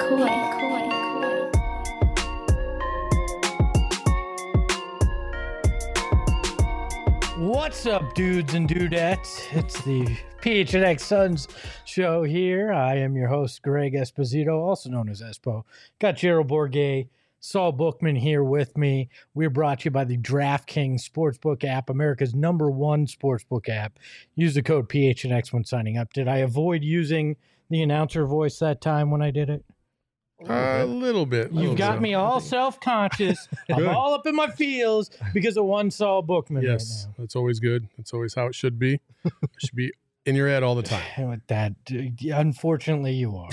What's up, dudes and dudettes? It's the PHNX Suns show here. I am your host, Greg Esposito, also known as Espo. Got Gerald Bourguet, Saul Bookman here with me. We're brought to you by the DraftKings Sportsbook app, America's #1 sportsbook app. Use the code PHNX when signing up. Did I avoid using the announcer voice that time when I did it? A little bit. You've got me all self-conscious. I'm all up in my feels because of one Saul Bookman. Yes, right now. that's always good. That's always how it should be. It should be in your head all the time. With that, unfortunately, you are.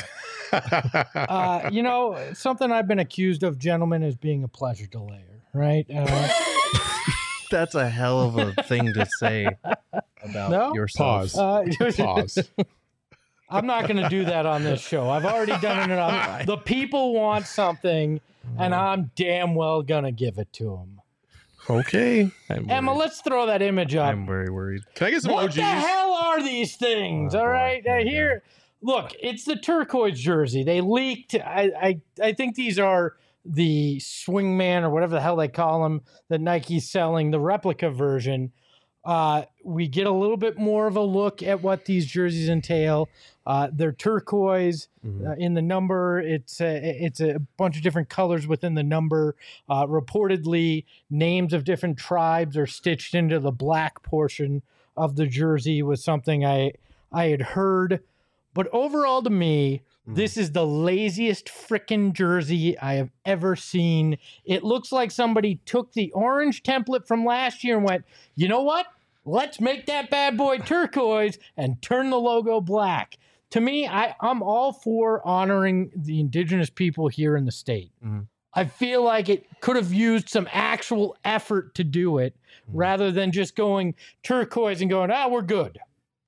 Something I've been accused of, gentlemen, is being a pleasure delayer, right? That's a hell of a thing to say about yourself. Pause. I'm not going to do that on this show. I've already done it enough. The people want something, and I'm damn well going to give it to them. Okay. Emma, let's throw that image up. I'm very worried. Can I get some What OGs? the hell are these things? All right. Here, look, it's the turquoise jersey. They leaked. I think these are the Swingman or whatever the hell they call them that Nike's selling, the replica version. We get a little bit more of a look at what these jerseys entail. They're turquoise in the number. It's a bunch of different colors within the number. Reportedly, names of different tribes are stitched into the black portion of the jersey was something I had heard. But overall, to me, this is the laziest frickin' jersey I have ever seen. It looks like somebody took the orange template from last year and went, you know what? Let's make that bad boy turquoise and turn the logo black. To me, I'm all for honoring the indigenous people here in the state. I feel like it could have used some actual effort to do it rather than just going turquoise and going, we're good.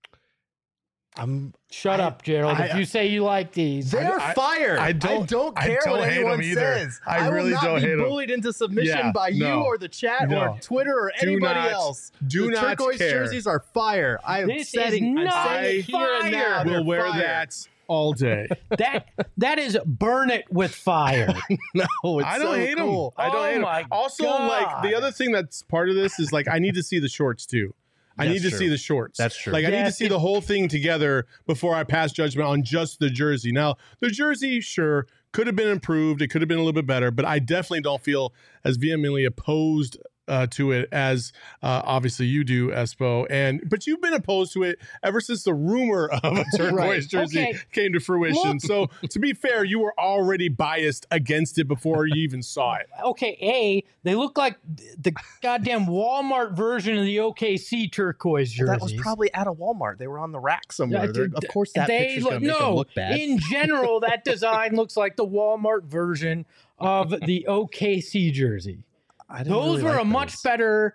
Shut up, Gerald. If you say you like these, they're fire. I don't care what anyone says. I really will not be bullied into submission by you or the chat or Twitter or anybody else. Do not turquoise care. jerseys are fire. I am saying here and now. Will wear that all day. That is burn it with fire. No, it's I don't hate cool. them. I don't hate them. Also, like the other thing that's part of this is like I need to see the shorts too. I need to see the shorts. That's true. Like I need to see the whole thing together before I pass judgment on just the jersey. Now, the jersey, sure, could have been improved. It could have been a little bit better, but I definitely don't feel as vehemently opposed to it as obviously you do, Espo. But you've been opposed to it ever since the rumor of a turquoise jersey came to fruition. So to be fair, you were already biased against it before you even saw it. Okay, they look like the goddamn Walmart version of the OKC turquoise jerseys. That was probably at a Walmart. They were on the rack somewhere. Of course, that picture's going to make them look bad. In general, that design looks like the Walmart version of the OKC jersey. Those were a much better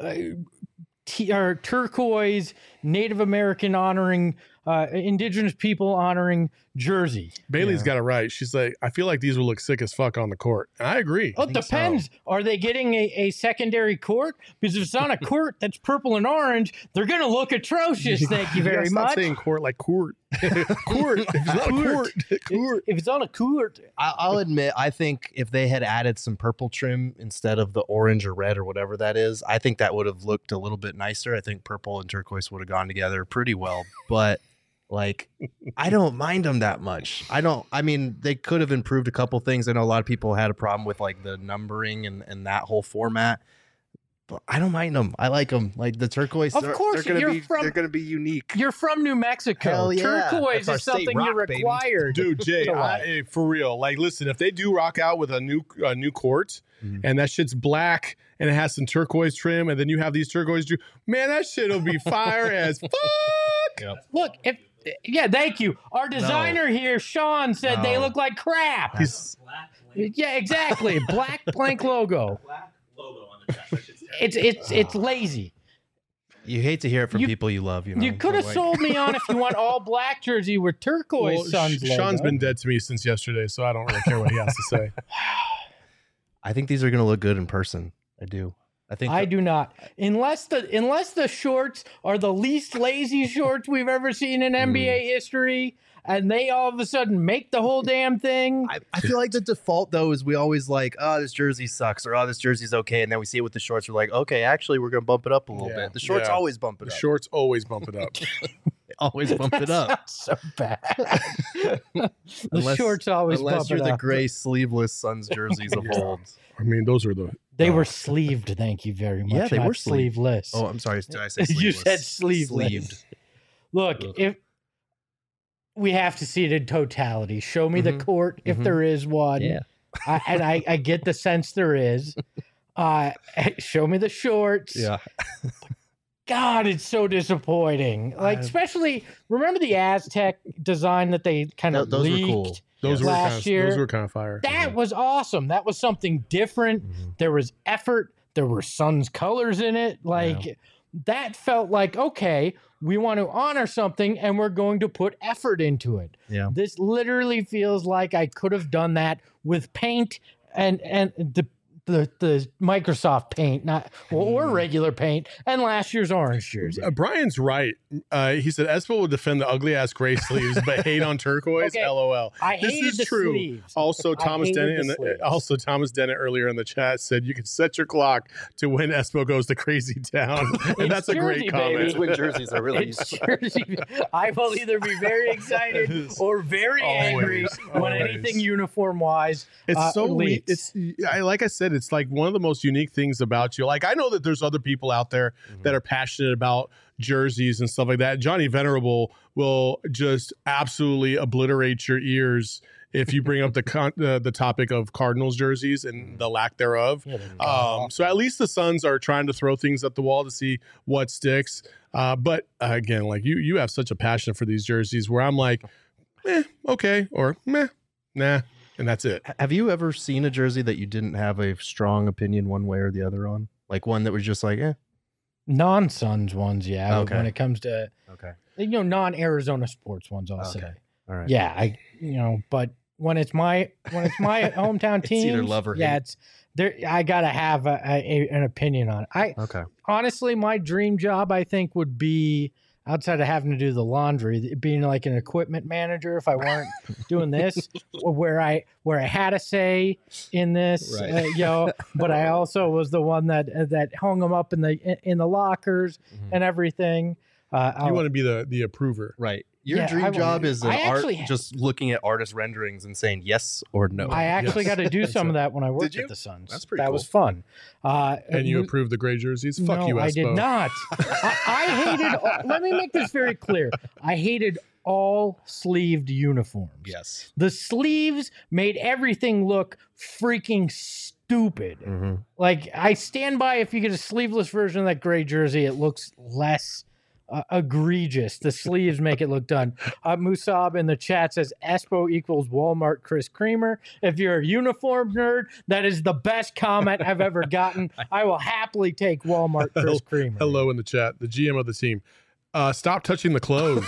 turquoise, Native American honoring, indigenous people honoring jersey. Bailey's got it right. She's like, I feel like these will look sick as fuck on the court. And I agree. Oh, it depends. So. Are they getting a secondary court? Because if it's on a court that's purple and orange, they're going to look atrocious. Thank you very much. Stop saying court like court. Court. If it's not a court. Court. If it's on a court. I'll admit, I think if they had added some purple trim instead of the orange or red or whatever that is, I think that would have looked a little bit nicer. I think purple and turquoise would have gone together pretty well. But like, I don't mind them that much. I mean, they could have improved a couple things. I know a lot of people had a problem with like the numbering and that whole format. But I don't mind them. I like them. Like the turquoise. Of course, they're going to be unique. You're from New Mexico. Hell yeah. Turquoise is something you're required. Dude, Jay, for real. Like, listen, if they do rock out with a new court and that shit's black and it has some turquoise trim and then you have these turquoise, man, that shit'll be fire as fuck. Yep. Look, thank you. Our designer here, Sean, said they look like crap. Yeah, exactly. Black blank logo. Black logo on the chest. It's lazy. You hate to hear it from people you love. You could have sold me on if you want all black jersey with turquoise Suns logo. Sean's been dead to me since yesterday, so I don't really care what he has to say. I think these are going to look good in person. I do. I do not. Unless the shorts are the least lazy shorts we've ever seen in NBA history, and they all of a sudden make the whole damn thing. I feel like the default though is we always like, oh, this jersey sucks, or oh, this jersey's okay, and then we see it with the shorts. We're like, okay, actually, we're gonna bump it up a little bit. The shorts always bump it The up. shorts always bump it up. Always bump it up. So bad. The shorts always bump unless you're it the up. gray sleeveless Suns jerseys of old. I mean, those are the. They were sleeved. Thank you very much. Yeah, they not were sleeved. sleeveless. Oh, I'm sorry. Did I say sleeveless? You said sleeveless. Sleeved. Look, Ugh. if we have to see it in totality, show me the court if there is one. Yeah. I get the sense there is. Show me the shorts. Yeah. God, it's so disappointing. Like, especially remember the Aztec design that they kind of Those were leaked cool. Those last year. Those were kind of fire. That was awesome. That was something different. There was effort. There were Suns colors in it. Like that felt like, okay, we want to honor something and we're going to put effort into it. Yeah. This literally feels like I could have done that with paint and the Microsoft paint, not or regular paint, and last year's orange jersey. Brian's right. He said Espo will defend the ugly ass gray sleeves, but hate on turquoise. Okay. LOL. I This hated is the true. sleeves. Also, I Thomas hated Dennett, the sleeves. Thomas Dennett earlier in the chat said you can set your clock to when Espo goes to crazy town, and that's a Jersey, great comment. baby. That's when jerseys are released. It's Jersey. I will either be very excited or very angry when always. anything uniform wise. It's so weird. leaks. Like I said, it's like one of the most unique things about you. Like I know that there's other people out there that are passionate about jerseys and stuff like that. Johnny Venerable will just absolutely obliterate your ears if you bring up the topic of Cardinals jerseys and the lack thereof. So at least the Suns are trying to throw things at the wall to see what sticks. But again, like you have such a passion for these jerseys where I'm like, okay, or meh, nah. And that's it. Have you ever seen a jersey that you didn't have a strong opinion one way or the other on? Like one that was just like, Non-Suns ones, yeah. Okay. When it comes to Okay. Non-Arizona sports ones, I'll say. All right. Yeah, but when it's my hometown It's team, either love or yeah, hate. it's there. I gotta have an opinion on it. Okay. Honestly, my dream job, I think, would be outside of having to do the laundry, being like an equipment manager. If I weren't doing this, where I had a say in this, Right. but I also was the one that hung them up in the lockers and everything. You want to be the approver. Right. Your Yeah, dream job is I actually just looking at artist renderings and saying yes or no. I actually got to do some of that when I worked you? at the Suns. That's pretty That cool. was fun. And you approved the gray jerseys? Fuck no, you, Espo. I did not. I hated. Let me make this very clear. I hated all sleeved uniforms. Yes. The sleeves made everything look freaking stupid. Like I stand by. If you get a sleeveless version of that gray jersey, it looks less egregious. The sleeves make it look done. Musab in the chat says Espo equals Walmart Chris Creamer. If you're a uniform nerd, that is the best comment I've ever gotten. I will happily take Walmart Chris Creamer. Hello in the chat, the GM of the team. Stop touching the clothes.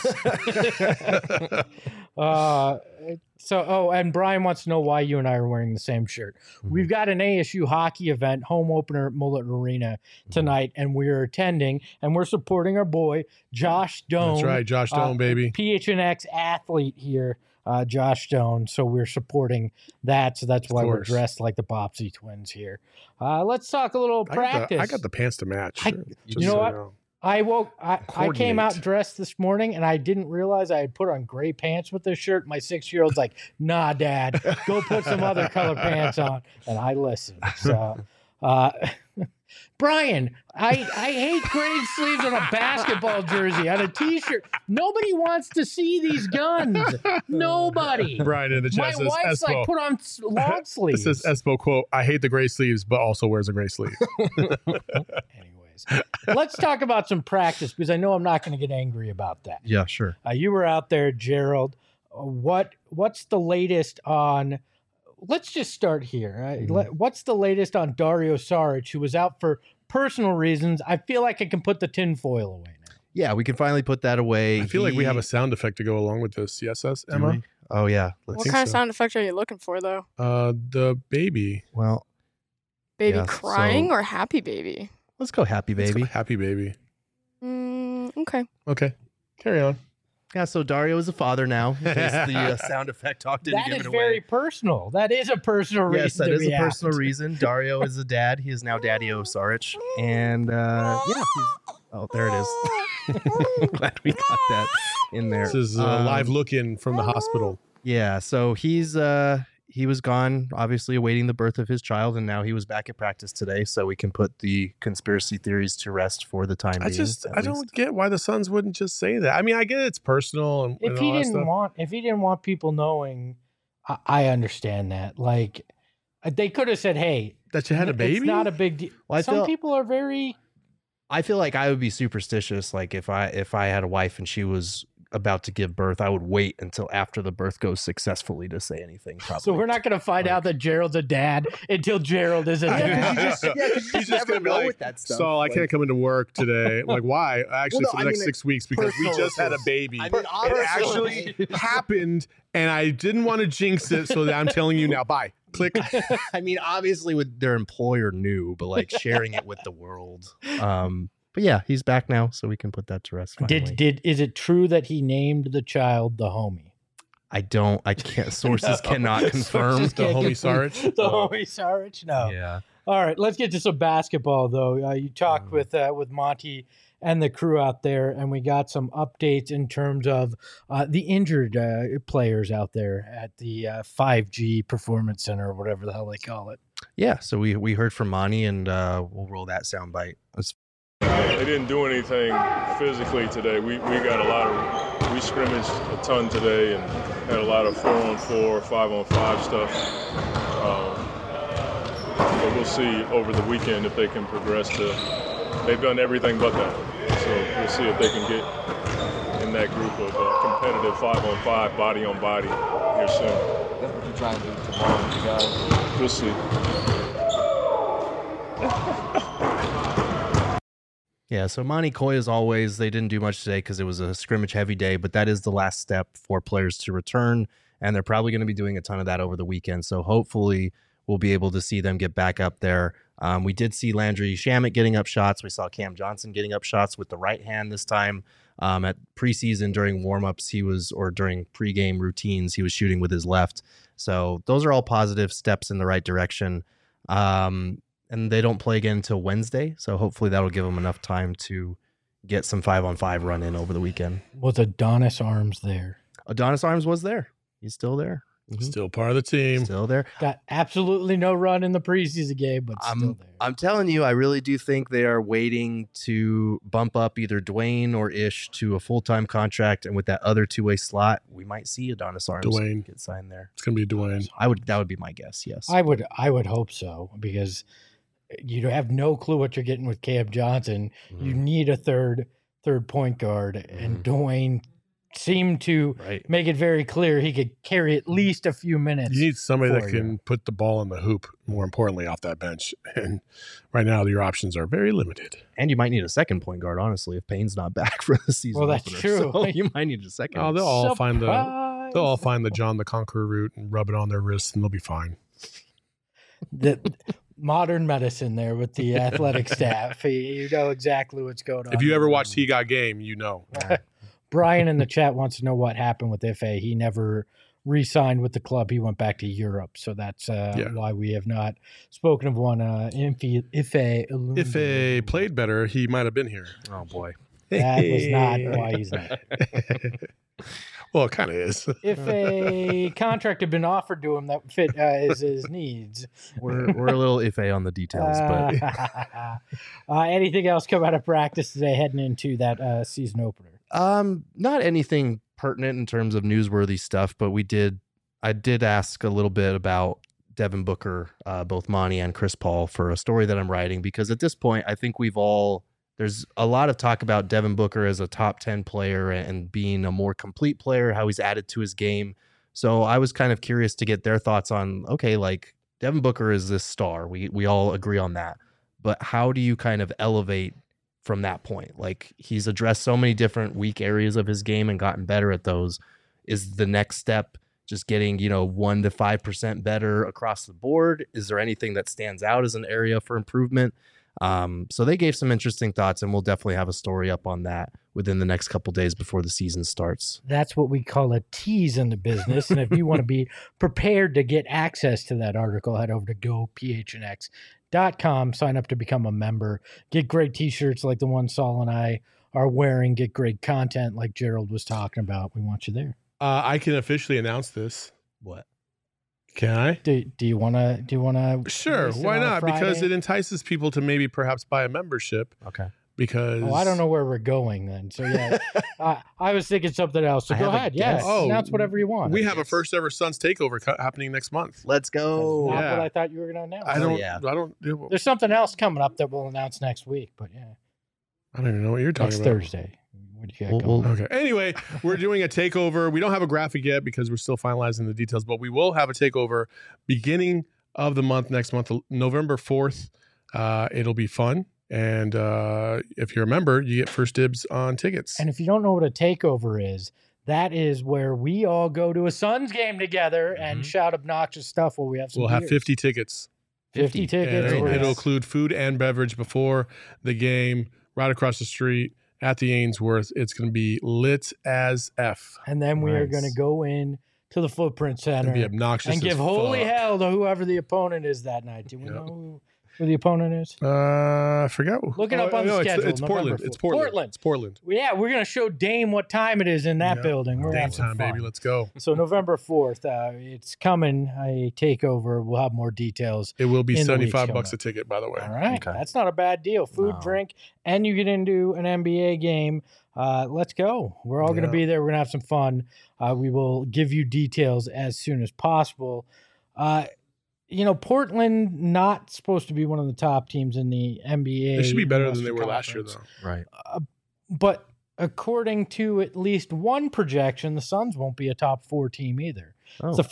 And Brian wants to know why you and I are wearing the same shirt. We've got an ASU hockey event, home opener at Mullet Arena tonight, and we're attending, and we're supporting our boy, Josh Doan. That's right, Josh Doan, baby. PHNX athlete here, Josh Doan. So we're supporting that. So that's why we're course. dressed like the Bopsy twins here. Let's talk a little practice. I got the pants to match. You know what? I came out Coordinate. dressed this morning and I didn't realize I had put on gray pants with this shirt. My 6-year-old's like, nah, Dad, go put some other color pants on. And I listened. So, Brian, I hate gray sleeves on a basketball jersey, on a t-shirt. Nobody wants to see these guns. Nobody. Brian in the My chat says, wife's Espo. like, put on long It sleeves. says Espo, quote, I hate the gray sleeves, but also wears a gray sleeve. Anyways, let's talk about some practice because I know I'm not going to get angry about that. Yeah, sure. You were out there, Gerald. What's the latest on? Let's just start here. What's the latest on Dario Saric, who was out for personal reasons? I feel like I can put the tinfoil away now. Yeah, we can finally put that away. I feel like we have a sound effect to go along with this. Yes, Do Emma? we? Oh yeah. Let's What think kind of so. sound effect are you looking for, though? The baby. Well, Baby Yeah, crying so- or happy baby? Let's go happy Let's go baby. happy baby. Okay. Okay. Carry on. Yeah, so Dario is a father now. In case the sound effect talk didn't That give is it very away. personal. That is a personal reason. Yes, that to is a react. personal reason. Dario is a dad. He is now Daddy-O Saric. And yeah, oh, there it is. Glad we got that in there. This is a live look-in from the hospital. Yeah, so he was gone, obviously awaiting the birth of his child, and now he was back at practice today, so we can put the conspiracy theories to rest for the time being. I don't get why the Suns wouldn't just say that. I mean, I get it's personal and, If and he all that didn't stuff. want people knowing, I understand that. Like, they could have said, "Hey, That you had a baby? It's not a big deal." Well, Some people are very. I feel like I would be superstitious. Like if I had a wife and she was about to give birth, I would wait until after the birth goes successfully to say anything. Probably. So we're not going to find out that Gerald's a dad until Gerald is a dad. He's just gonna be like, Saul, I can't come into work today. I'm like, why? Actually, Well, no, for the I next mean, 6 weeks because we personal just had a issues. baby. I mean, It honestly- actually happened, and I didn't want to jinx it, so that I'm telling you now. Bye. Click. I mean, obviously, with their employer knew, but like sharing it with the world. But yeah, he's back now, so we can put that to rest. Finally. Is it true that he named the child the homie? I can't. Sources cannot confirm. Sources The can't homie confirm. Sarich? The homie Sarich? No. Yeah. All right, let's get to some basketball, though. You talked with Monty and the crew out there, and we got some updates in terms of the injured players out there at the 5G Performance Center, or whatever the hell they call it. Yeah. So we heard from Monty, and we'll roll that soundbite. They didn't do anything physically today. We we scrimmaged a ton today and had a lot of 4-on-4, 5-on-5 stuff. But we'll see over the weekend if they can progress to. They've done everything but that. So we'll see if they can get in that group of competitive 5-on-5, body on body here soon. That's what you're trying to do tomorrow, you guys. We'll see. Yeah, so Monty Coy, as always, they didn't do much today because it was a scrimmage-heavy day, but that is the last step for players to return, and they're probably going to be doing a ton of that over the weekend. So hopefully we'll be able to see them get back up there. We did see Landry Shamet getting up shots. We saw Cam Johnson getting up shots with the right hand this time. At preseason during warmups, or during pregame routines, he was shooting with his left. So those are all positive steps in the right direction. And they don't play again until Wednesday, so hopefully that'll give them enough time to get some 5-on-5 run in over the weekend. Was Adonis Arms there? Adonis Arms was there. He's still there. Still part of the team. Still there. Got absolutely no run in the preseason game, but still there. I'm telling you, I really do think they are waiting to bump up either Dwayne or Ish to a full-time contract, and with that other two-way slot, we might see Adonis Arms Dwayne. get signed there. It's gonna be Dwayne. That would be my guess. Yes. I would hope so, because you have no clue what you're getting with Cam Johnson. Mm-hmm. You need a third point guard, and Dwayne seemed to Right. make it very clear he could carry at least a few minutes. You need somebody that for can you. put the ball in the hoop, more importantly, off that bench. And right now, your options are very limited. And you might need a second point guard, honestly, if Payne's not back for the season. Well, that's opener. true. So you might need a second. Oh, they'll all find the Surprise! John the Conqueror route and rub it on their wrists, and they'll be fine. The modern medicine there with the athletic staff. You know exactly what's going on. If you ever watched He Got Game, you know. Brian in the chat wants to know what happened with Ife. He never re-signed with the club. He went back to Europe, so that's why we have not spoken of one. Ife If they played better, he might have been here. Oh boy. That was not why he's not. Well, it kind of is. If a contract had been offered to him that fit his needs. We're a little iffy on the details, but Anything else come out of practice today heading into that season opener? not anything pertinent in terms of newsworthy stuff, but I did ask a little bit about Devin Booker, both Monty and Chris Paul, for a story that I'm writing, because at this point, I think there's a lot of talk about Devin Booker as a top 10 player and being a more complete player, how he's added to his game. So I was kind of curious to get their thoughts on, okay, like Devin Booker is this star. We all agree on that. But how do you kind of elevate from that point? Like, he's addressed so many different weak areas of his game and gotten better at those. Is the next step just getting, 1 to 5% better across the board? Is there anything that stands out as an area for improvement? So they gave some interesting thoughts, and we'll definitely have a story up on that within the next couple days before the season starts. That's what we call a tease in the business. And if you want to be prepared to get access to that article, head over to gophnx.com, sign up to become a member, get great t-shirts like the one Saul and I are wearing, get great content like Gerald was talking about. We want you there. I can officially announce this. What? Can I? Do you want to? Sure. Why not? Because it entices people to maybe perhaps buy a membership. Okay. Because I don't know where we're going then. So yeah, I was thinking something else. So go ahead. Yeah. Announce whatever you want. We have a first ever Suns takeover happening next month. Let's go. That's not what I thought you were going to announce. I don't. There's something else coming up that we'll announce next week. But yeah, I don't even know what you're talking about. Thursday. What do you got going? Okay. Anyway, we're doing a takeover. We don't have a graphic yet because we're still finalizing the details, but we will have a takeover beginning of the month, next month, November 4th. It'll be fun. And if you're a member, you get first dibs on tickets. And if you don't know what a takeover is, that is where we all go to a Suns game together and shout obnoxious stuff while we have some We'll have 50 tickets. 50 tickets. And it'll include food and beverage before the game, right across the street at the Ainsworth. It's going to be lit as F. And then we are going to go in to the Footprint Center and be obnoxious and give holy hell to whoever the opponent is that night. Do we know who the opponent is? I forgot. Look it up on the schedule. It's Portland. It's Portland. It's Portland. Yeah, we're going to show Dame what time it is in that building. We're Dame time, baby. Let's go. So November 4th, it's coming. A takeover. We'll have more details. It will be $75 a ticket, by the way. All right. Okay. That's not a bad deal. Food, drink, and you get into an NBA game. Let's go. We're all going to be there. We're going to have some fun. We will give you details as soon as possible. Portland not supposed to be one of the top teams in the NBA. They should be better than they were last year, though. Right. But according to at least one projection, the Suns won't be a top 4 team either. Oh. It's a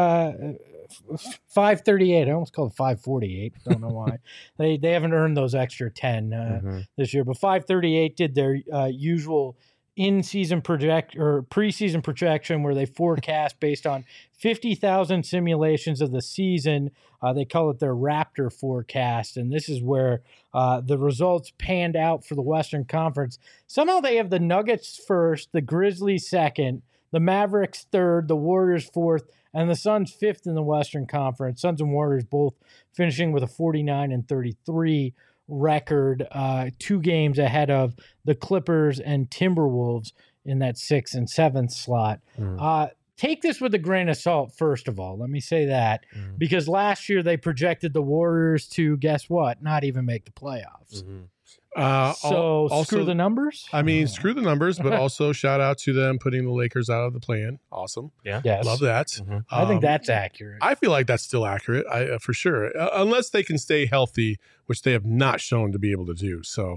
538. I almost called it 548. Don't know why. They haven't earned those extra 10 this year. But 538 did their usual in-season preseason projection where they forecast based on 50,000 simulations of the season. They call it their Raptor forecast, and this is where the results panned out for the Western Conference. Somehow they have the Nuggets first, the Grizzlies second, the Mavericks third, the Warriors fourth, and the Suns fifth in the Western Conference. Suns and Warriors both finishing with a 49-33 record, 2 games ahead of the Clippers and Timberwolves in that 6th and 7th slot. Take this with a grain of salt, first of all. Let me say that, because last year they projected the Warriors to, guess what, not even make the playoffs. So also, screw the numbers? I mean, screw the numbers, but also shout out to them putting the Lakers out of the play-in. Awesome. Yeah. Yes. Love that. I think that's accurate. I feel like that's still accurate, for sure, unless they can stay healthy, which they have not shown to be able to do. So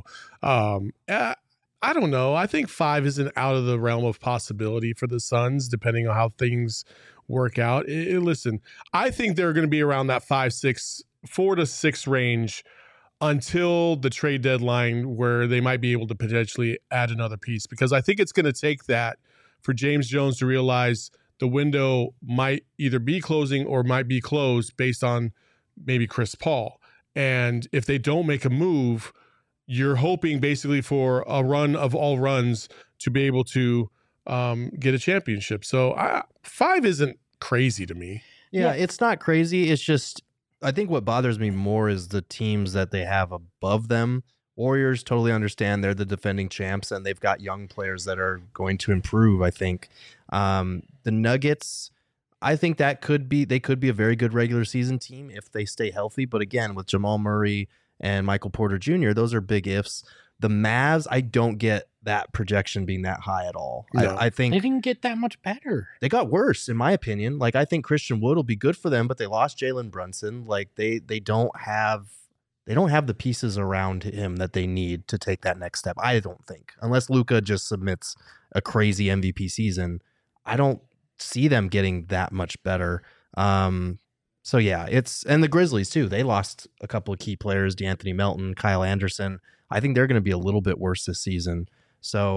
I don't know. I think 5 isn't out of the realm of possibility for the Suns, depending on how things work out. Listen, I think they're going to be around that 4 to 6 range until the trade deadline, where they might be able to potentially add another piece, because I think it's going to take that for James Jones to realize the window might either be closing or might be closed based on maybe Chris Paul. And if they don't make a move, you're hoping basically for a run of all runs to be able to get a championship. So 5 isn't crazy to me. Yeah, it's not crazy. It's just, I think what bothers me more is the teams that they have above them. Warriors, totally understand. They're the defending champs, and they've got young players that are going to improve, I think. The Nuggets, I think they could be a very good regular season team if they stay healthy. But again, with Jamal Murray and Michael Porter Jr., those are big ifs. The Mavs, I don't get that projection being that high at all. No. I think they didn't get that much better. They got worse, in my opinion. Like, I think Christian Wood will be good for them, but they lost Jalen Brunson. Like, they don't have the pieces around him that they need to take that next step. I don't think, unless Luka just submits a crazy MVP season, I don't see them getting that much better. So yeah, and the Grizzlies too. They lost a couple of key players, DeAnthony Melton, Kyle Anderson. I think they're going to be a little bit worse this season. So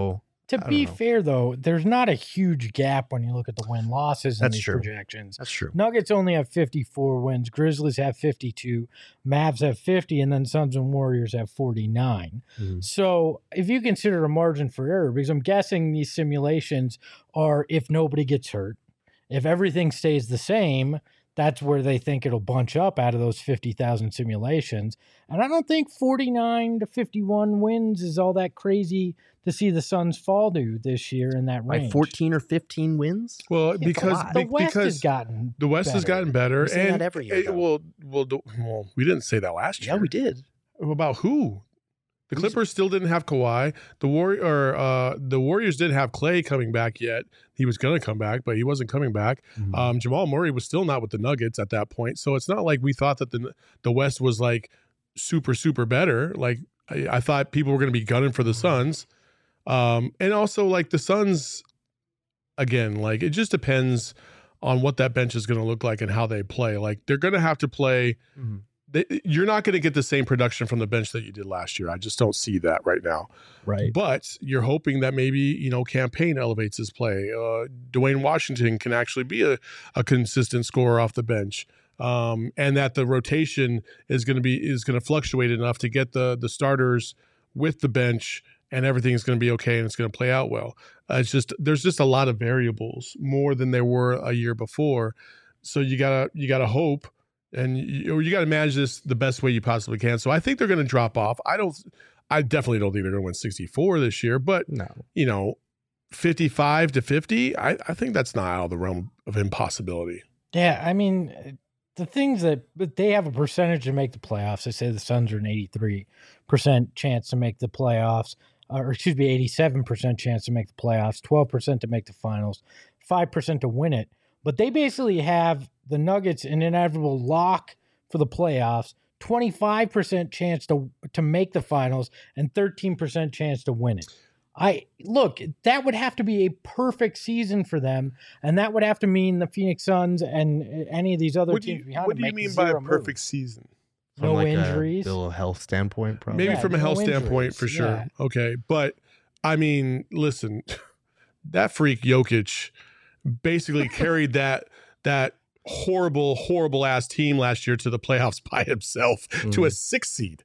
To don't be know. fair, though, there's not a huge gap when you look at the win-losses in That's these true. projections. That's true. Nuggets only have 54 wins. Grizzlies have 52. Mavs have 50. And then Suns and Warriors have 49. Mhm. So if you consider a margin for error, because I'm guessing these simulations are if nobody gets hurt, if everything stays the same, that's where they think it'll bunch up out of those 50,000 simulations. And I don't think 49 to 51 wins is all that crazy to see the Suns fall to this year in that range. Like 14 or 15 wins? Well, It's a because lot. The West has because gotten the West has better. gotten better, We say that and every year, though. well, we didn't say that last year. Yeah, we did. About who? The Clippers still didn't have Kawhi. The Warriors didn't have Clay coming back yet. He was going to come back, but he wasn't coming back. Mm-hmm. Jamal Murray was still not with the Nuggets at that point. So it's not like we thought that the West was like super better. Like I thought people were going to be gunning for the Suns. And also like the Suns, again, like it just depends on what that bench is going to look like and how they play. Like they're going to have to play. Mhm. You're not going to get the same production from the bench that you did last year. I just don't see that right now. Right. But you're hoping that maybe, Campaign elevates his play. Dwayne Washington can actually be a consistent scorer off the bench. And that the rotation is going to fluctuate enough to get the starters with the bench, and everything's going to be okay and it's going to play out well. There's just a lot of variables, more than there were a year before. So you gotta hope, and you got to manage this the best way you possibly can. So I think they're going to drop off. I definitely don't think they're going to win 64 this year, but No. 55 to 50, I think that's not out of the realm of impossibility. Yeah, I mean, the things but they have a percentage to make the playoffs. They say the Suns are an 83% chance to make the playoffs, or excuse me, 87% chance to make the playoffs, 12% to make the finals, 5% to win it. But they basically have the Nuggets an inevitable lock for the playoffs, 25% chance to make the finals, and 13% chance to win it. That would have to be a perfect season for them, and that would have to mean the Phoenix Suns and any of these other teams behind What them do you make mean by a zero perfect moves. season? From No like injuries. a Bill health standpoint, probably. Maybe Yeah, from a no health standpoint, injuries, for sure. yeah. Okay. But I mean, listen, that freak Jokic basically carried that horrible ass team last year to the playoffs by himself to a 6th seed.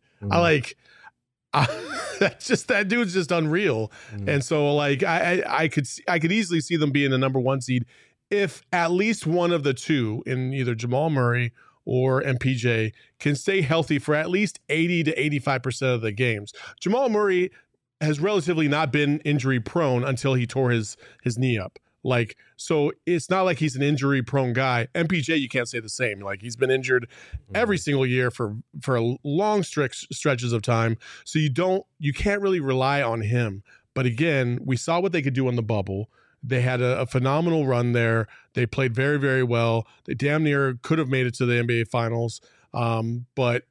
That dude's just unreal. And so like I could easily see them being the number 1 seed if at least one of the two, in either Jamal Murray or MPJ, can stay healthy for at least 80 to 85% of the games. Jamal Murray has relatively not been injury prone until he tore his knee up. Like, so it's not like he's an injury prone guy. MPJ, you can't say the same. Like, he's been injured every single year for long stretches of time. So you can't really rely on him. But again, we saw what they could do in the bubble. They had a phenomenal run there. They played very, very well. They damn near could have made it to the NBA Finals. But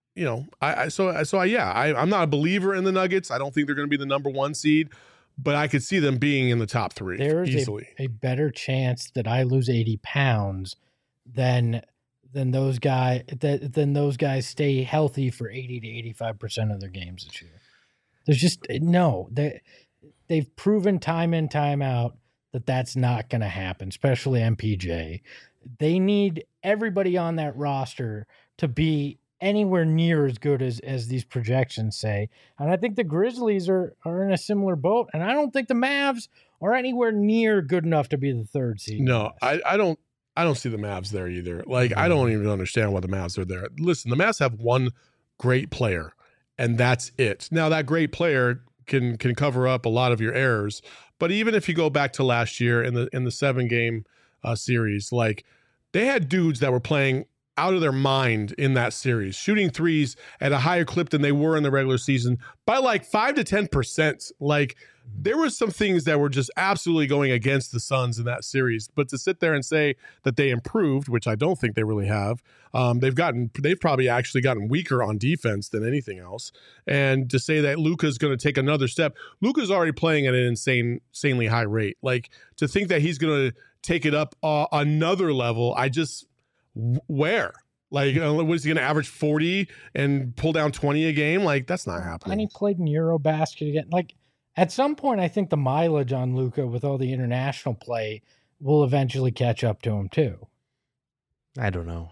I'm not a believer in the Nuggets. I don't think they're going to be the number 1 seed, but I could see them being in the top 3 There's easily. a better chance that I lose 80 pounds than those guys stay healthy for 80 to 85% of their games this year. There's just they've proven time in, time out that that's not going to happen, especially MPJ. They need everybody on that roster to be anywhere near as good as these projections say. And I think the Grizzlies are in a similar boat. And I don't think the Mavs are anywhere near good enough to be the 3rd seed. No, I don't see the Mavs there either. Like, I don't even understand why the Mavs are there. Listen, the Mavs have one great player, and that's it. Now, that great player can cover up a lot of your errors. But even if you go back to last year in the 7-game series, like, they had dudes that were playing out of their mind in that series, shooting threes at a higher clip than they were in the regular season by like 5 to 10%. Like, there were some things that were just absolutely going against the Suns in that series. But to sit there and say that they improved, which I don't think they really have, they've probably actually gotten weaker on defense than anything else. And to say that Luka's going to take another step, Luka's already playing at an insanely high rate. Like, to think that he's going to take it up another level, where? Like, was he going to average 40 and pull down 20 a game? Like, that's not happening. And he played in Eurobasket again. Like, At some point, I think the mileage on Luka with all the international play will eventually catch up to him too. I don't know.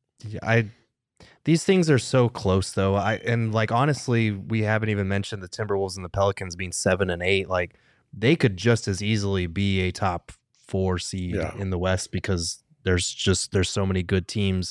These things are so close though. Honestly, we haven't even mentioned the Timberwolves and the Pelicans being 7 and 8. Like they could just as easily be a top 4 seed in the West because there's so many good teams,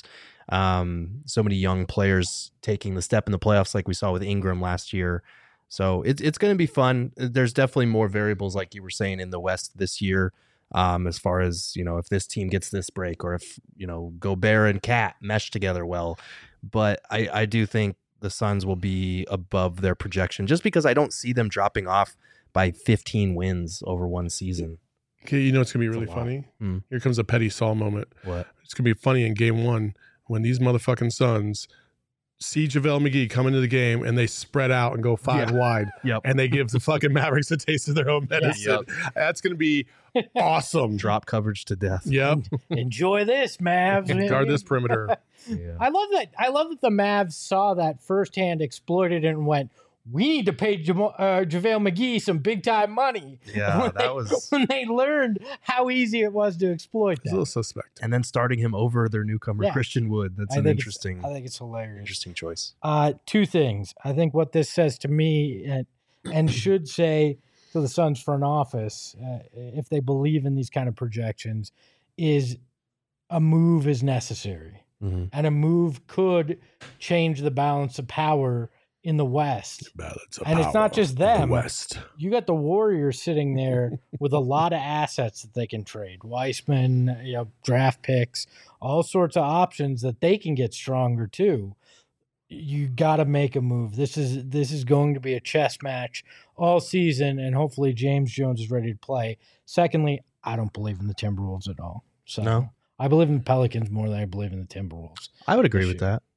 so many young players taking the step in the playoffs like we saw with Ingram last year. So it's going to be fun. There's definitely more variables like you were saying in the West this year. As far as, if this team gets this break or if, Gobert and Cat mesh together well. But I do think the Suns will be above their projection just because I don't see them dropping off by 15 wins over one season. Okay, it's going to be really funny? Here comes a Petty Saul moment. What? It's going to be funny in game 1 when these motherfucking Suns see JaVale McGee come into the game and they spread out and go 5 wide. Yep. And they give the fucking Mavericks a taste of their own medicine. Yep. That's going to be awesome. Drop coverage to death. Yep. Enjoy this, Mavs. Guard this perimeter. Yeah. I love that the Mavs saw that firsthand, exploited it, and went, we need to pay JaVale McGee some big time money. Yeah, when they learned how easy it was to exploit It's a that. little suspect. And then starting him over their newcomer Yeah. Christian Wood. That's I an think interesting it's hilarious. interesting choice. 2 things. I think what this says to me and should say to the Suns front office, if they believe in these kind of projections, is a move is necessary. Mm-hmm. And a move could change the balance of power in the West. And it's not just them. The West. You got the Warriors sitting there with a lot of assets that they can trade. Weissman, draft picks, all sorts of options that they can get stronger too. You got to make a move. This is going to be a chess match all season, and hopefully James Jones is ready to play. Secondly, I don't believe in the Timberwolves at all. So No? I believe in the Pelicans more than I believe in the Timberwolves. I would agree this with year. that.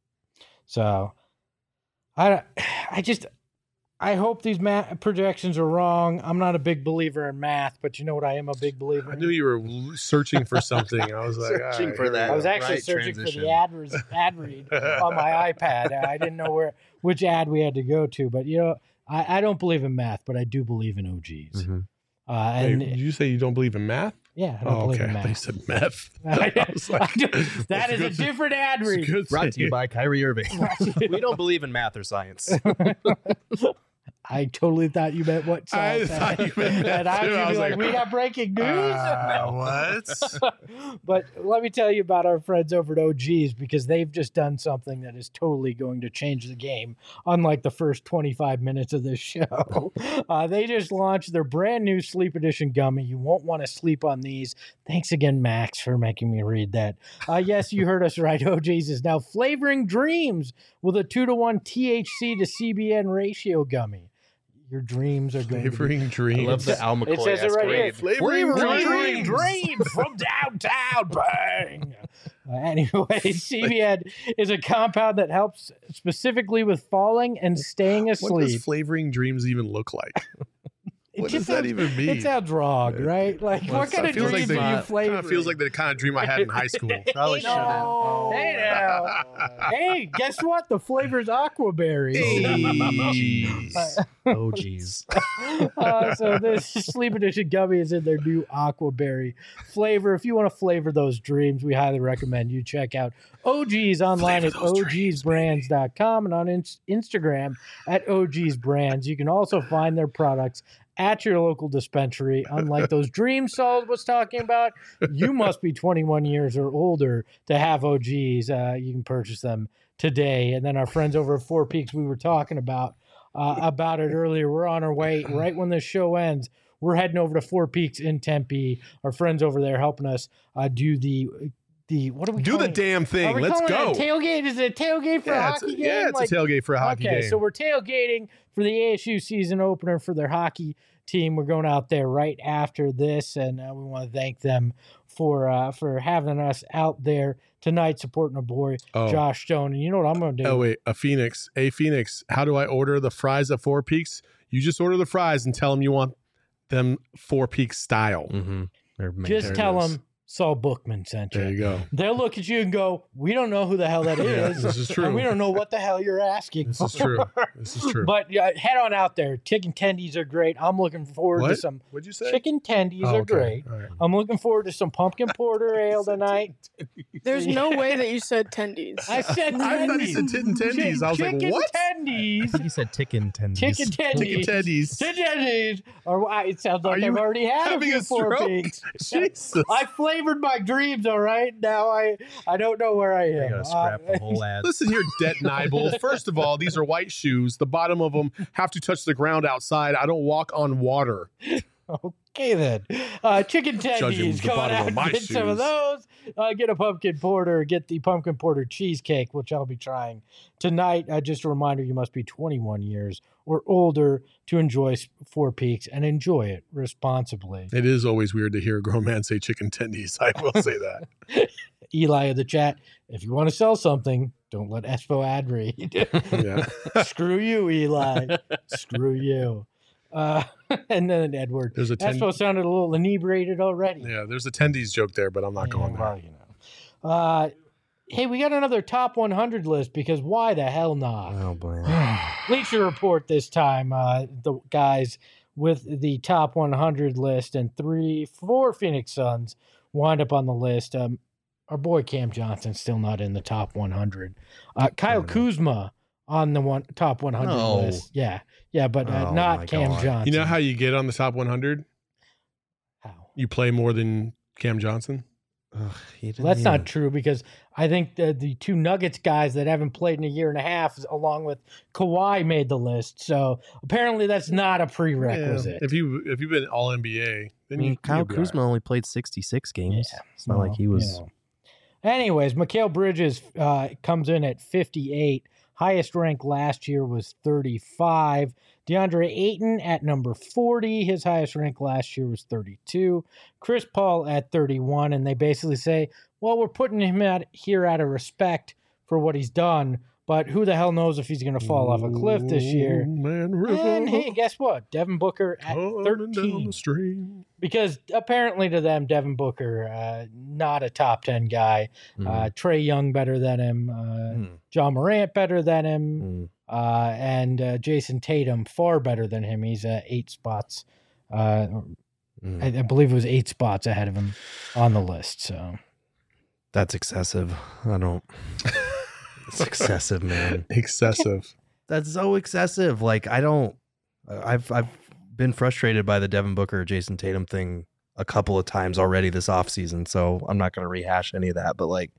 So I hope these projections are wrong. I'm not a big believer in math, but you know what I am a big believer I in? knew you were searching for something. I was like, Searching all right, for here we that. go. I was actually Right searching transition. for the ad read on my iPad. I didn't know which ad we had to go to, but I don't believe in math, but I do believe in OGs. Mhm. Hey, And did you say you don't believe in math? yeah, I don't Oh, believe okay. in I thought you math. said meth. I was like, that that's is a good. different ad It's a read. good Brought to thing. you by Kyrie Irving. We don't believe in math or science. I totally thought you meant what Saul I said. thought you meant that And I too. was I gonna be was like, like, we got breaking news. What? But let me tell you about our friends over at OGs because they've just done something that is totally going to change the game, unlike the first 25 minutes of this show. They just launched their brand new Sleep Edition gummy. You won't want to sleep on these. Thanks again, Max, for making me read that. Yes, you heard us right. OGs is now flavoring dreams with a 2-to-1 THC to CBN ratio gummy. Your dreams are going to be Flavoring I dreams. love the Al McCoy. It says it right here. Flavoring Flavoring dreams. dreams from downtown. Bang. Anyway, CBN is a compound that helps specifically with falling and staying What does asleep. flavoring dreams even look like? It What just does that sounds- even mean? It sounds wrong, right? Like, Well, what kind of feels dreams like are you Kind flavoring? of feels like the kind of dream I had in high school. Probably No. Hey, now. Hey, guess what? The flavor's aquaberry. Jeez. Oh, geez. So this Sleep Edition gummy is in their new aquaberry flavor. If you want to flavor those dreams, we highly recommend you check out OGs online at ogsbrands.com and on Instagram at ogsbrands. You can also find their products at your local dispensary. Unlike those dreams Saul was talking about, you must be 21 years or older to have OGs. You can purchase them today. And then our friends over at Four Peaks, we were talking about it earlier. We're on our way right when this show ends. We're heading over to Four Peaks in Tempe. Our friends over there helping us do the what are we Do calling the it? damn Are thing. we Let's calling go. it a tailgate? Is it a tailgate for a hockey game? Yeah, it's a tailgate for a hockey Okay, game. so we're tailgating for the ASU season opener for their hockey team. We're going out there right after this, and we want to thank them for having us out there tonight, supporting our boy Josh Stone. And you know what I'm going to do? Oh, wait. A Phoenix. How do I order the fries at Four Peaks? You just order the fries and tell them you want them Four Peaks style. Mm-hmm. Just There it tell is. them Saul Bookman sent you. There you go. They'll look at you and go, we don't know who the hell that Yeah, is. this is true. And we don't know what the hell you're asking This for. is true. This is true. But head on out there. Chicken tendies are great. I'm looking forward to What? some What'd you say? chicken tendies Oh, are okay. great. All right. I'm looking forward to some pumpkin porter ale tonight. There's no way that you said tendies. I said tendies. I thought he said tit and tendies. I was like, chicken what? tendies. You said chicken tendies. Chicken tendies. Chicken tendies. Chicken tendies. Or it sounds Are like you I've already had a having few a Four stroke? Peaks. Jesus. I flavored my dreams, all right? Now I don't know where I I am. gotta scrap the whole ad. Listen here, Det Nibel. First of all, these are white shoes. The bottom of them have to touch the ground outside. I don't walk on water. Okay then. Chicken Judging tendies. the Go on bottom out of and my get some of shoes. those. Get a pumpkin porter. Get the pumpkin porter cheesecake, which I'll be trying tonight. Just a reminder, you must be 21 years or older to enjoy Four Peaks and enjoy it responsibly. It is always weird to hear a grown man say chicken tendies. I will say that. Eli of the chat, if you want to sell something, don't let Espo ad read. Yeah. Screw you, Eli. Screw you. And then Edward. There's a Espo sounded a little inebriated already. Yeah, there's a tendies joke there, but I'm not going there. Well, you know. Hey, we got another top 100 list because why the hell not? Oh boy. Bleacher Report this time. The guys with the top 100 list and 4 Phoenix Suns wind up on the list. Our boy Cam Johnson's still not in the top 100. Kyle Kuzma on the top 100 No. list. Yeah, but Oh, my not Cam God. Johnson. You know how you get on the top 100? How? You play more than Cam Johnson. Ugh, he didn't Well, that's even- not true because I think the 2 Nuggets guys that haven't played in a year and a half, along with Kawhi, made the list. So apparently that's not a prerequisite. Yeah. If you've been All NBA, I then mean, Kyle you'll be all Kuzma only played 66 games. Yeah. It's not like he was. You know. Anyways, Mikal Bridges comes in at 58. Highest rank last year was 35. DeAndre Ayton at number 40. His highest rank last year was 32. Chris Paul at 31. And they basically say, well, we're putting him here out of respect for what he's done. But who the hell knows if he's going to fall off a cliff this year. Man, river, And hey, guess what? Devin Booker at coming down 13. the stream. Because apparently to them, Devin Booker, not a top 10 guy. Trey Young better than him. John Morant better than him. And Jason Tatum far better than him. He's 8 spots. I believe it was 8 spots ahead of him on the list. So That's excessive. I don't. It's excessive, man. Excessive. That's so excessive. Like I don't. I've been frustrated by the Devin Booker, Jason Tatum thing a couple of times already this offseason, so I'm not going to rehash any of that. But like,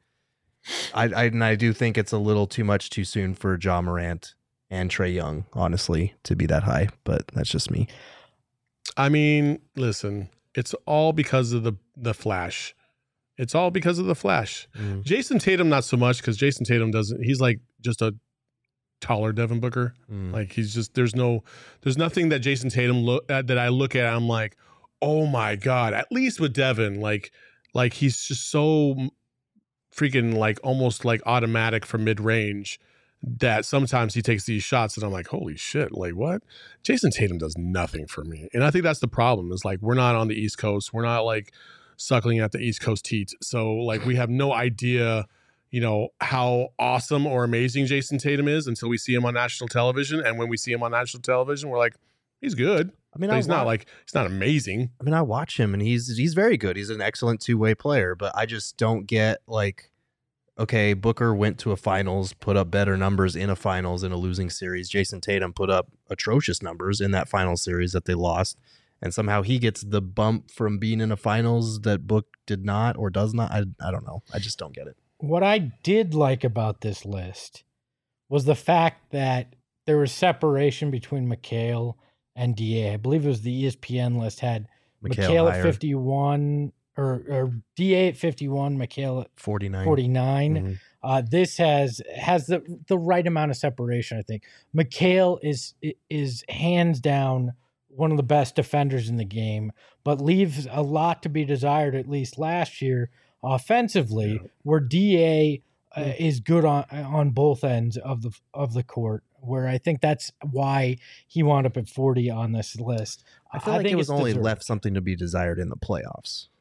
I do think it's a little too much too soon for John Morant and Trey Young, honestly, to be that high. But that's just me. I mean, listen, it's all because of the Flash. It's all because of the Flash. Jason Tatum, not so much, because Jason Tatum he's like just a taller Devin Booker. Like he's just, there's nothing that Jason Tatum that I look at, I'm like, oh my God, at least with Devin, like he's just so freaking like almost like automatic from mid range that sometimes he takes these shots and I'm like, holy shit, like what? Jason Tatum does nothing for me. And I think that's the problem is like, we're not on the East Coast. We're not like suckling at the East Coast teat. So like we have no idea, you know, how awesome or amazing Jason Tatum is until we see him on national television. And when we see him on national television, we're like, he's good. I mean, But he's not amazing. I mean, I watch him and he's very good. He's an excellent two-way player, but I just don't get like, okay, Booker went to a finals, put up better numbers in a finals in a losing series. Jason Tatum put up atrocious numbers in that final series that they lost. And somehow he gets the bump from being in a finals that Book did not or does not. I don't know. I just don't get it. what I did like about this list was the fact that there was separation between Mikal and DA. I believe it was the ESPN list had Mikal at higher, 51 or DA at 51, Mikal at 49. 49. Mhm. This has the right amount of separation, I think. Mikal is hands down one of the best defenders in the game, but leaves a lot to be desired, at least last year, offensively, where DA is good on both ends of the court, where I think that's why he wound up at 40 on this list. I feel like think it was it's only deserved. left something to be desired in the playoffs.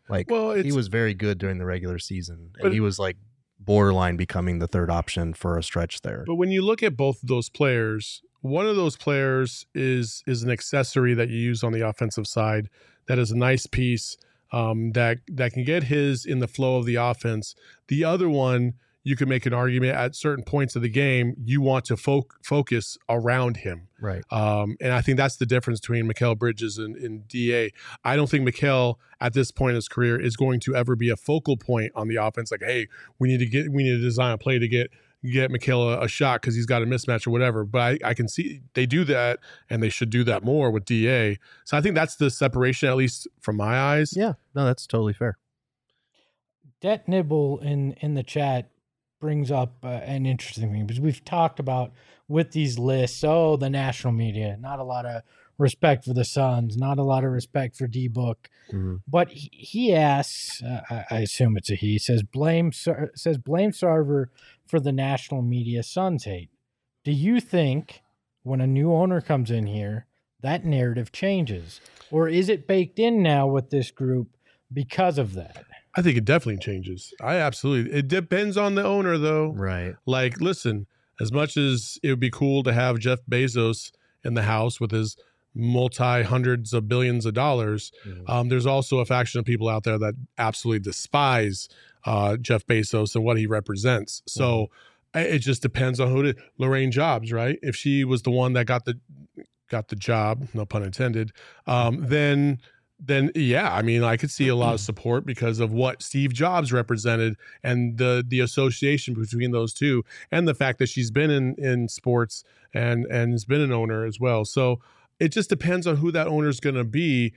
Like, Well, he it's- was very good during the regular season, But- and he was like borderline becoming the third option for a stretch there. But when you look at both of those players, one of those players is an accessory that you use on the offensive side that is a nice piece that can get his in the flow of the offense. The other one, you can make an argument at certain points of the game, you want to focus around him. Right. And I think that's the difference between Mikal Bridges and DA. I don't think Mikal at this point in his career is going to ever be a focal point on the offense. Like, hey, we need to design a play to get Mikal a shot because he's got a mismatch or whatever. But I can see they do that, and they should do that more with DA. So I think that's the separation, at least from my eyes. Yeah. No, that's totally fair. Det Nibble in the chat brings up an interesting thing, because we've talked about with these lists, the national media, not a lot of respect for the Suns, not a lot of respect for D-Book. Mm-hmm. But he asks, I assume it's a he, says blame Sarver for the national media Suns hate. Do you think when a new owner comes in here, that narrative changes? Or is it baked in now with this group because of that? I think it definitely changes. It depends on the owner, though. Right. Like, listen, as much as it would be cool to have Jeff Bezos in the house with his multi-hundreds of billions of dollars, there's also a faction of people out there that absolutely despise Jeff Bezos and what he represents. So it just depends on who Lorraine Jobs, right? If she was the one that got the job, no pun intended, then yeah, I mean, I could see a lot of support because of what Steve Jobs represented and the association between those two, and the fact that she's been in sports and has been an owner as well. So it just depends on who that owner is going to be.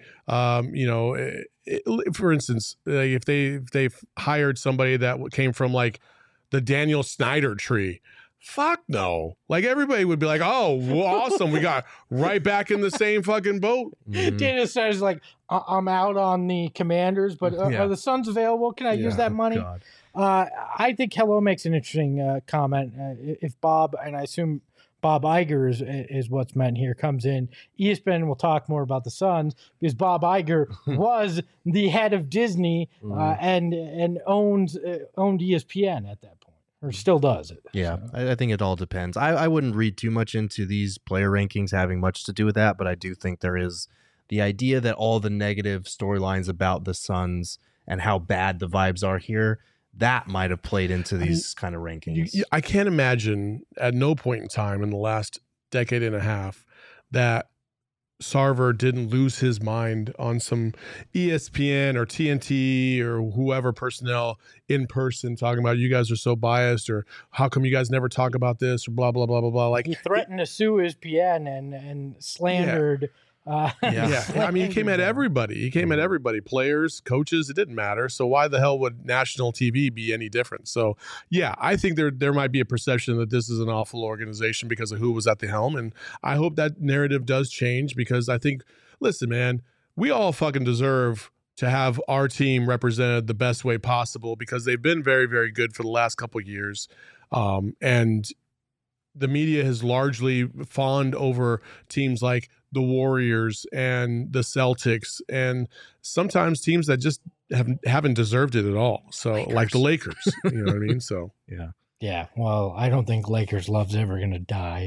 For instance, if they've hired somebody that came from like the Daniel Snyder tree, fuck no. Like, everybody would be like, oh, well, awesome. We got right back in the same fucking boat. Dana says, like, I'm out on the Commanders, but are the Suns available? Can I use that money? God. I think Hello makes an interesting comment. If Bob, and I assume Bob Iger is what's meant here, comes in, ESPN will talk more about the Suns, because Bob Iger was the head of Disney and owned ESPN at that point. Or still does it. Yeah, So. I think it all depends. I wouldn't read too much into these player rankings having much to do with that, but I do think there is the idea that all the negative storylines about the Suns and how bad the vibes are here, that might have played into these kind of rankings. I can't imagine at no point in time in the last decade and a half that Sarver didn't lose his mind on some ESPN or TNT or whoever personnel in person talking about, you guys are so biased, or how come you guys never talk about this, or blah, blah, blah, blah, blah. Like, He threatened to sue ESPN and slandered. yeah. I mean, he came at everybody. He came at everybody, players, coaches. It didn't matter. So why the hell would national TV be any different? So yeah, I think there might be a perception that this is an awful organization because of who was at the helm, and I hope that narrative does change, because I think, listen, man, we all fucking deserve to have our team represented the best way possible, because they've been very, very good for the last couple of years, and the media has largely fawned over teams like the Warriors and the Celtics, and sometimes teams that just haven't deserved it at all. So like the Lakers, you know what I mean? So Yeah, well, I don't think Lakers love's ever going to die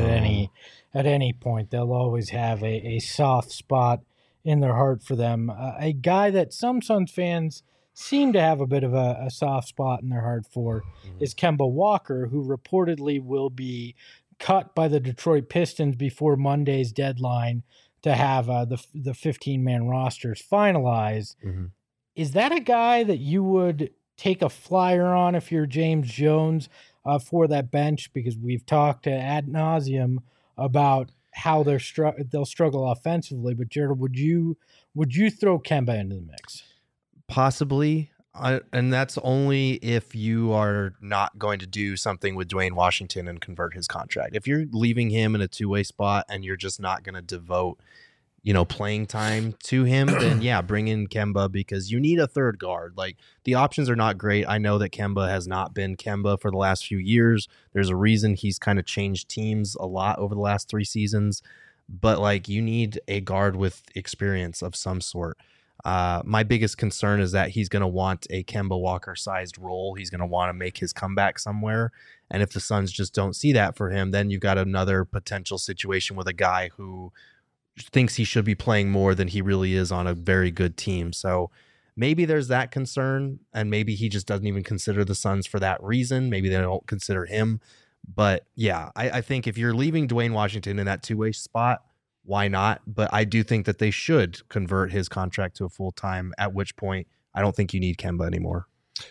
at any point. They'll always have a soft spot in their heart for them. A guy that some Suns fans seem to have a bit of a soft spot in their heart for is Kemba Walker, who reportedly will be cut by the Detroit Pistons before Monday's deadline to have the 15-man rosters finalized. Is that a guy that you would take a flyer on if you're James Jones for that bench? Because we've talked ad nauseum about how they'll struggle offensively. But Jared, would you throw Kemba into the mix? Possibly. And that's only if you are not going to do something with Dwayne Washington and convert his contract. If you're leaving him in a two-way spot and you're just not going to devote, playing time to him, then yeah, bring in Kemba, because you need a third guard. Like, the options are not great. I know that Kemba has not been Kemba for the last few years. There's a reason he's kind of changed teams a lot over the last 3 seasons, but like, you need a guard with experience of some sort. My biggest concern is that he's going to want a Kemba Walker-sized role. He's going to want to make his comeback somewhere. And if the Suns just don't see that for him, then you've got another potential situation with a guy who thinks he should be playing more than he really is on a very good team. So maybe there's that concern, and maybe he just doesn't even consider the Suns for that reason. Maybe they don't consider him. But yeah, I think if you're leaving Dwayne Washington in that two-way spot, why not? But I do think that they should convert his contract to a full-time, at which point I don't think you need Kemba anymore.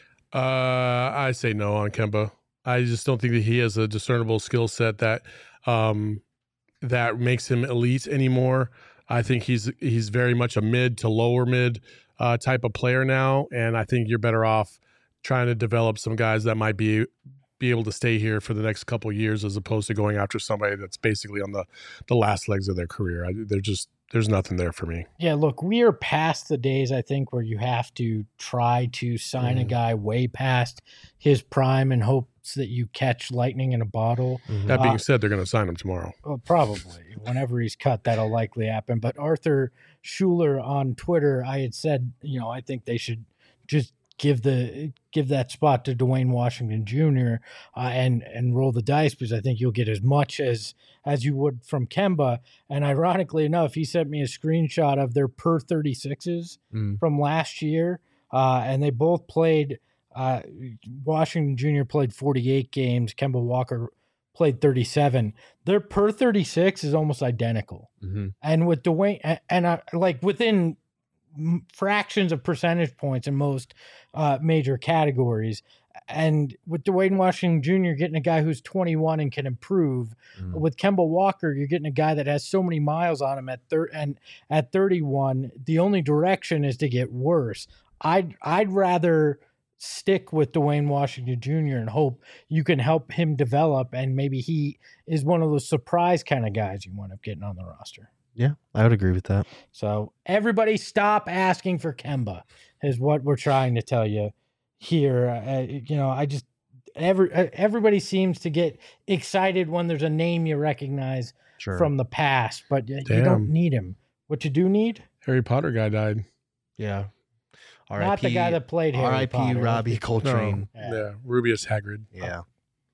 I say no on Kemba. I just don't think that he has a discernible skill set that that makes him elite anymore. I think he's very much a mid to lower mid type of player now, and I think you're better off trying to develop some guys that might be able to stay here for the next couple of years, as opposed to going after somebody that's basically on the last legs of their career. There's nothing there for me. Yeah, look, we are past the days, I think, where you have to try to sign a guy way past his prime in hopes that you catch lightning in a bottle. That being said, they're going to sign him tomorrow. Well, probably. Whenever he's cut, that'll likely happen. But Arthur Schuler on Twitter, I had said, I think they should just give that spot to Dwayne Washington Jr. And roll the dice, because I think you'll get as much as you would from Kemba. And ironically enough, he sent me a screenshot of their per 36s from last year, and they both played. Washington Jr. played 48 games. Kemba Walker played 37. Their per 36 is almost identical. And with Dwayne, and like within fractions of percentage points in most major categories. And with Dwayne Washington Jr., getting a guy who's 21 and can improve. With Kemba Walker, you're getting a guy that has so many miles on him at 31. The only direction is to get worse. I'd rather stick with Dwayne Washington Jr. and hope you can help him develop, and maybe he is one of those surprise kind of guys you wind up getting on the roster. Yeah, I would agree with that. So everybody stop asking for Kemba is what we're trying to tell you here. Everybody seems to get excited when there's a name you recognize from the past, but you don't need him. What you do need? Harry Potter guy died. Yeah. Not the guy that played Harry Potter. R.I.P. Robbie Coltrane. No. Yeah, Rubius Hagrid. Yeah.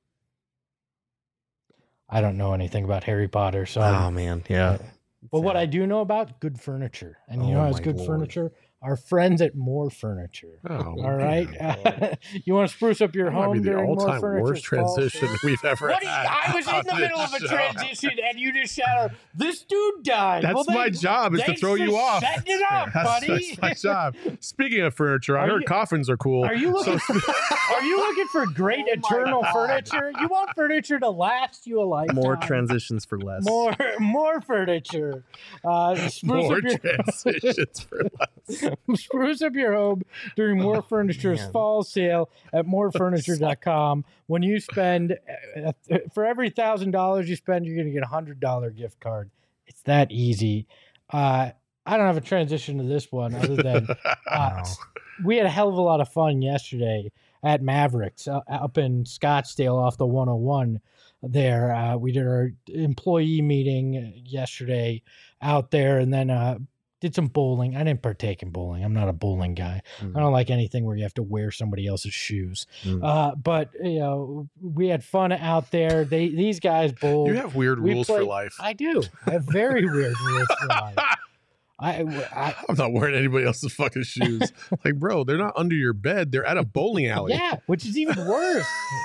I don't know anything about Harry Potter, so. Oh man, yeah. But what I do know about good furniture, and you know how it's good furniture? Our friends at More Furniture. All right, you want to spruce up your home during More Furniture? Worst transition we've ever had. I was in the middle of a transition, and you just shouted, "This dude died." That's my job, is to throw you off. Setting it up, buddy. That's my job. Speaking of furniture, I heard coffins are cool. Are you looking for great eternal furniture? You want furniture to last you a lifetime. More transitions for less. More furniture. More transitions for less. Spruce up your home during More Furniture's fall sale at morefurniture.com. When you spend, for every $1,000 you spend, you're going to get a $100 gift card. It's that easy. I don't have a transition to this one other than we had a hell of a lot of fun yesterday at Mavericks up in Scottsdale off the 101 there. We did our employee meeting yesterday out there, and then did some bowling. I didn't partake in bowling. I'm not a bowling guy. I don't like anything where you have to wear somebody else's shoes. But we had fun out there. These guys bowled. You have weird rules for life. I do. I have very weird rules for life. I'm not wearing anybody else's fucking shoes. Like, bro, they're not under your bed. They're at a bowling alley. Yeah, which is even worse.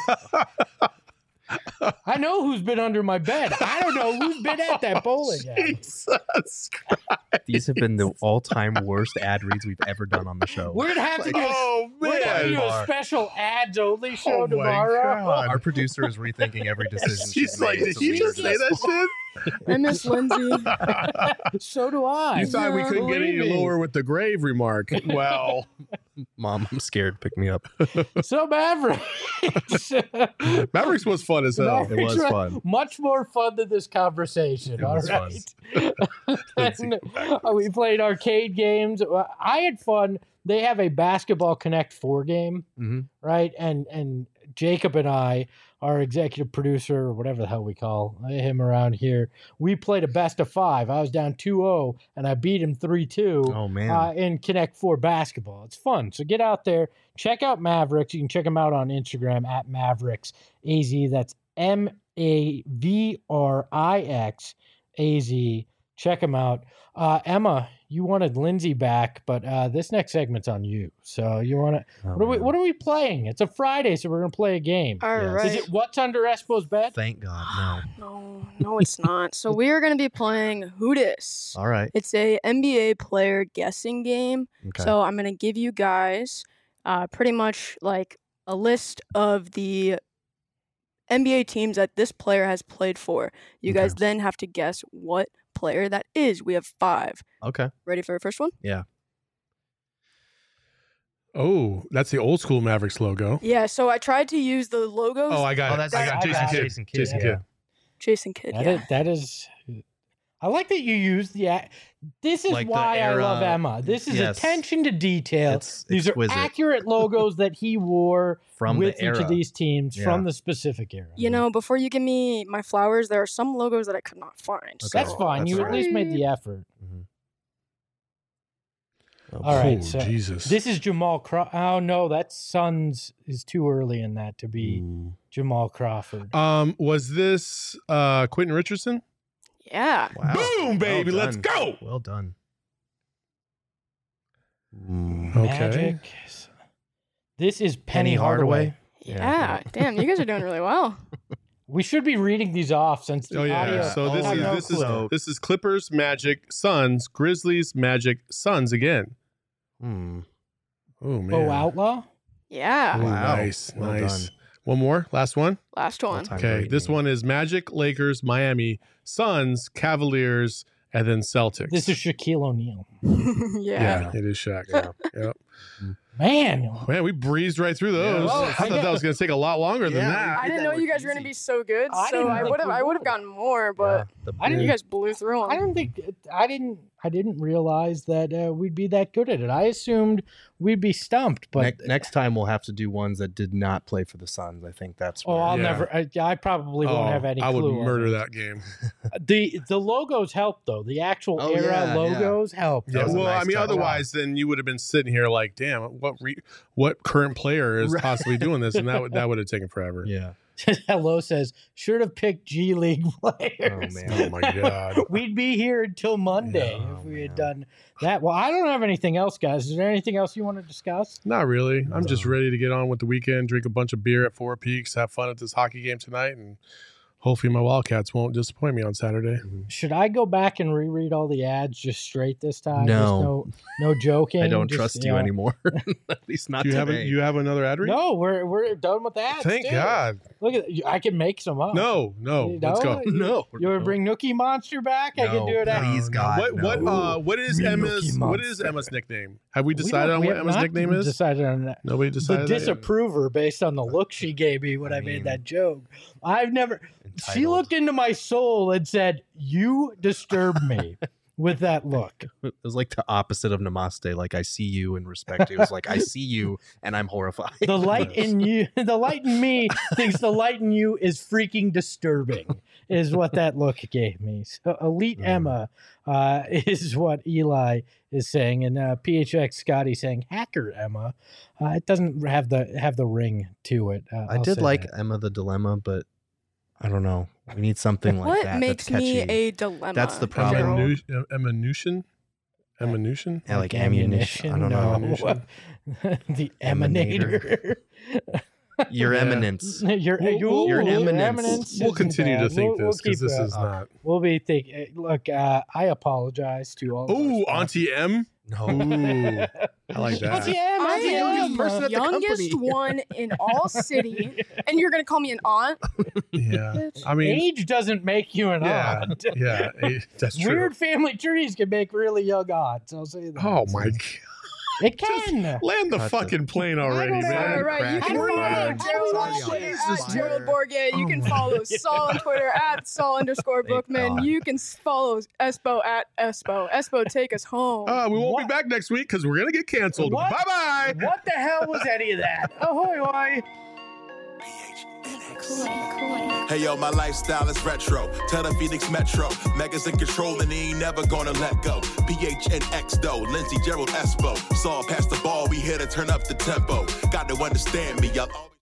I know who's been under my bed. I don't know who's been at that bowling alley. Jesus Christ. These have been the all-time worst ad reads we've ever done on the show. We're gonna have to do a special ads only show tomorrow. Our producer is rethinking every decision. She's like, did you just say that shit? I miss Lindsay. So do I. You thought we couldn't get any lower with the grave remark. Well, Mom, I'm scared. Pick me up. So Mavericks. Mavericks was fun as hell. It was fun. Much more fun than this conversation. All right. We played arcade games. I had fun. they have a Basketball Connect 4 game, right? And Jacob and I, our executive producer, or whatever the hell we call him around here, we played a best of 5. I was down 2-0, and I beat him 3-2 Oh, man. in Connect 4 basketball. It's fun. So get out there. Check out Mavericks. You can check them out on Instagram at MavericksAZ. That's MAVRIXAZ. Check them out. Emma, you wanted Lindsay back, but this next segment's on you. So you want to? What are we playing? It's a Friday, so we're gonna play a game. All Yes. right. Is it What's Under Espo's Bed? Thank God, no. No, it's not. So we are going to be playing Who Dis. All right. It's a NBA player guessing game. Okay. So I'm going to give you guys pretty much like a list of the NBA teams that this player has played for. You guys then have to guess what player that is. We have 5. Okay. Ready for your first one? Yeah. Oh, that's the old school Mavericks logo. Yeah, so I tried to use the logos. Oh, I got Oh, it. that's I got Jason Kidd. Jason Kidd. Jason yeah. Kidd. Jason Kidd, yeah. That is. I like that you used the. This is Like the why I love era- Emma. This is Yes. attention to detail. It's These exquisite. are accurate logos that he wore From with the each era. of these teams Yeah. from the specific era. You know, before you give me my flowers, there are some logos that I could not find. Okay. That's so- fine. That's You at fine. least made the effort. All Oh, right, so Jesus. this is Jamal Crawford. Oh no, that's Suns is too early in that to be Jamal Crawford. Was this Quentin Richardson? Yeah. Wow. Boom, baby. Well Let's done. go. Well done. Okay. Magic. This is Penny Penny Hardaway. Hardaway. Yeah. Damn, you guys are doing really well. We should be reading these off since the Oh yeah. audio. So this I have no is clue. this is Clippers, Magic, Suns, Grizzlies, Magic, Suns again. Oh man. Bo Outlaw. Yeah. Oh, Wow. Nice. Well nice. done. One more. Last one. Last one. All-time Okay. great This name. one is Magic, Lakers, Miami, Suns, Cavaliers, and then Celtics. This is Shaquille O'Neal. Yeah. yeah, it is Shaq. Yep. Man, Man, we breezed right through those. Well, I thought that was going to take a lot longer than Yeah. that. I didn't know you guys were gonna be so good, I so didn't I think would have we I would have would. gotten more, but I didn't- you guys blew through I them. didn't think I didn't realize that we'd be that good at it. I assumed we'd be stumped, but Next time we'll have to do ones that did not play for the Suns. I think that's. oh, where- I'll Yeah. never. I probably won't have any I clue. would on murder it. that game. The logos help though. The actual Oh, era yeah, yeah. logos help. That Yeah, was a well, nice I mean, touch. otherwise, then you would have been sitting here like, damn, what current player is Right. possibly doing this, and that would have taken forever. Yeah. Hello says should have picked G League players. man. Oh my god. We'd be here until Monday Yeah, if we had man. done that. Well, I don't have anything else, guys. Is there anything else you want to discuss? Not really. I'm just No. ready to get on with the weekend, drink a bunch of beer at Four Peaks, have fun at this hockey game tonight, and hopefully my Wildcats won't disappoint me on Saturday. Should I go back and reread all the ads just straight this time? No. Just no joking. I don't Just, trust you know. anymore. At least not Do you have today. you have another ad read? No, we're done with that. Thank God. Look at I can make some up. No, You let's go. know? No. You want to bring Nookie Monster back? I can No, do it. After. please, God. What is Me Emma's Nookie Emma's nickname? Have we We decided don't- on we what have Emma's not nickname is? Decided on that. Nobody The decided. that yet? disapprover based on the look she gave me when I made mean, that joke. I've never. She Entitled. looked into my soul and said, "You disturb me." With that look, It was like the opposite of namaste. Like I see you and respect you. It was like I see you and I'm horrified. the light in you, the light in me thinks the light in you is freaking disturbing. Is what that look gave me. So Elite Emma is what Eli is saying, and PHX Scotty saying Hacker Emma. It doesn't have the ring to it. I I'll did say like that. Emma the Dilemma, but I don't know. We need something like What that. makes that's me catchy. a dilemma? That's the problem. Gerald? Emmanution? Yeah, like ammunition. I don't know. Ammunition. The Emanator. Your Yeah. eminence. Your Your eminence. We'll isn't continue to bad. think We'll this because keep this it is up. not. We'll be thinking. Look, I apologize to all. of Oh, our Auntie M. No. Ooh, I like that. Auntie M, I Auntie am M. person the at the youngest company. one in all city, and you're gonna call me an aunt? Yeah, I mean, Age doesn't make you an yeah, aunt. yeah, that's true. Weird family trees can make really young aunts. I'll say that. Oh my! It can. Land the Cut fucking plane already, I don't know. man. All right, you can Cracking follow fire. Gerald on Twitter Jesus, at Gerald fire. Bourget. You can follow Saul on Twitter at Saul_Bookman. God. You can follow Espo at Espo. Espo, take us home. We won't What? be back next week because we're gonna get canceled. What? Bye bye. What the hell was any of that? Ahoy, hoy. Hey yo, my lifestyle is retro. Tell the Phoenix Metro. Megas in control and he ain't never gonna let go. PHNX though, Lindsey, Gerald, Espo. Saw past the ball, we here to turn up the tempo. Got to understand me, y'all.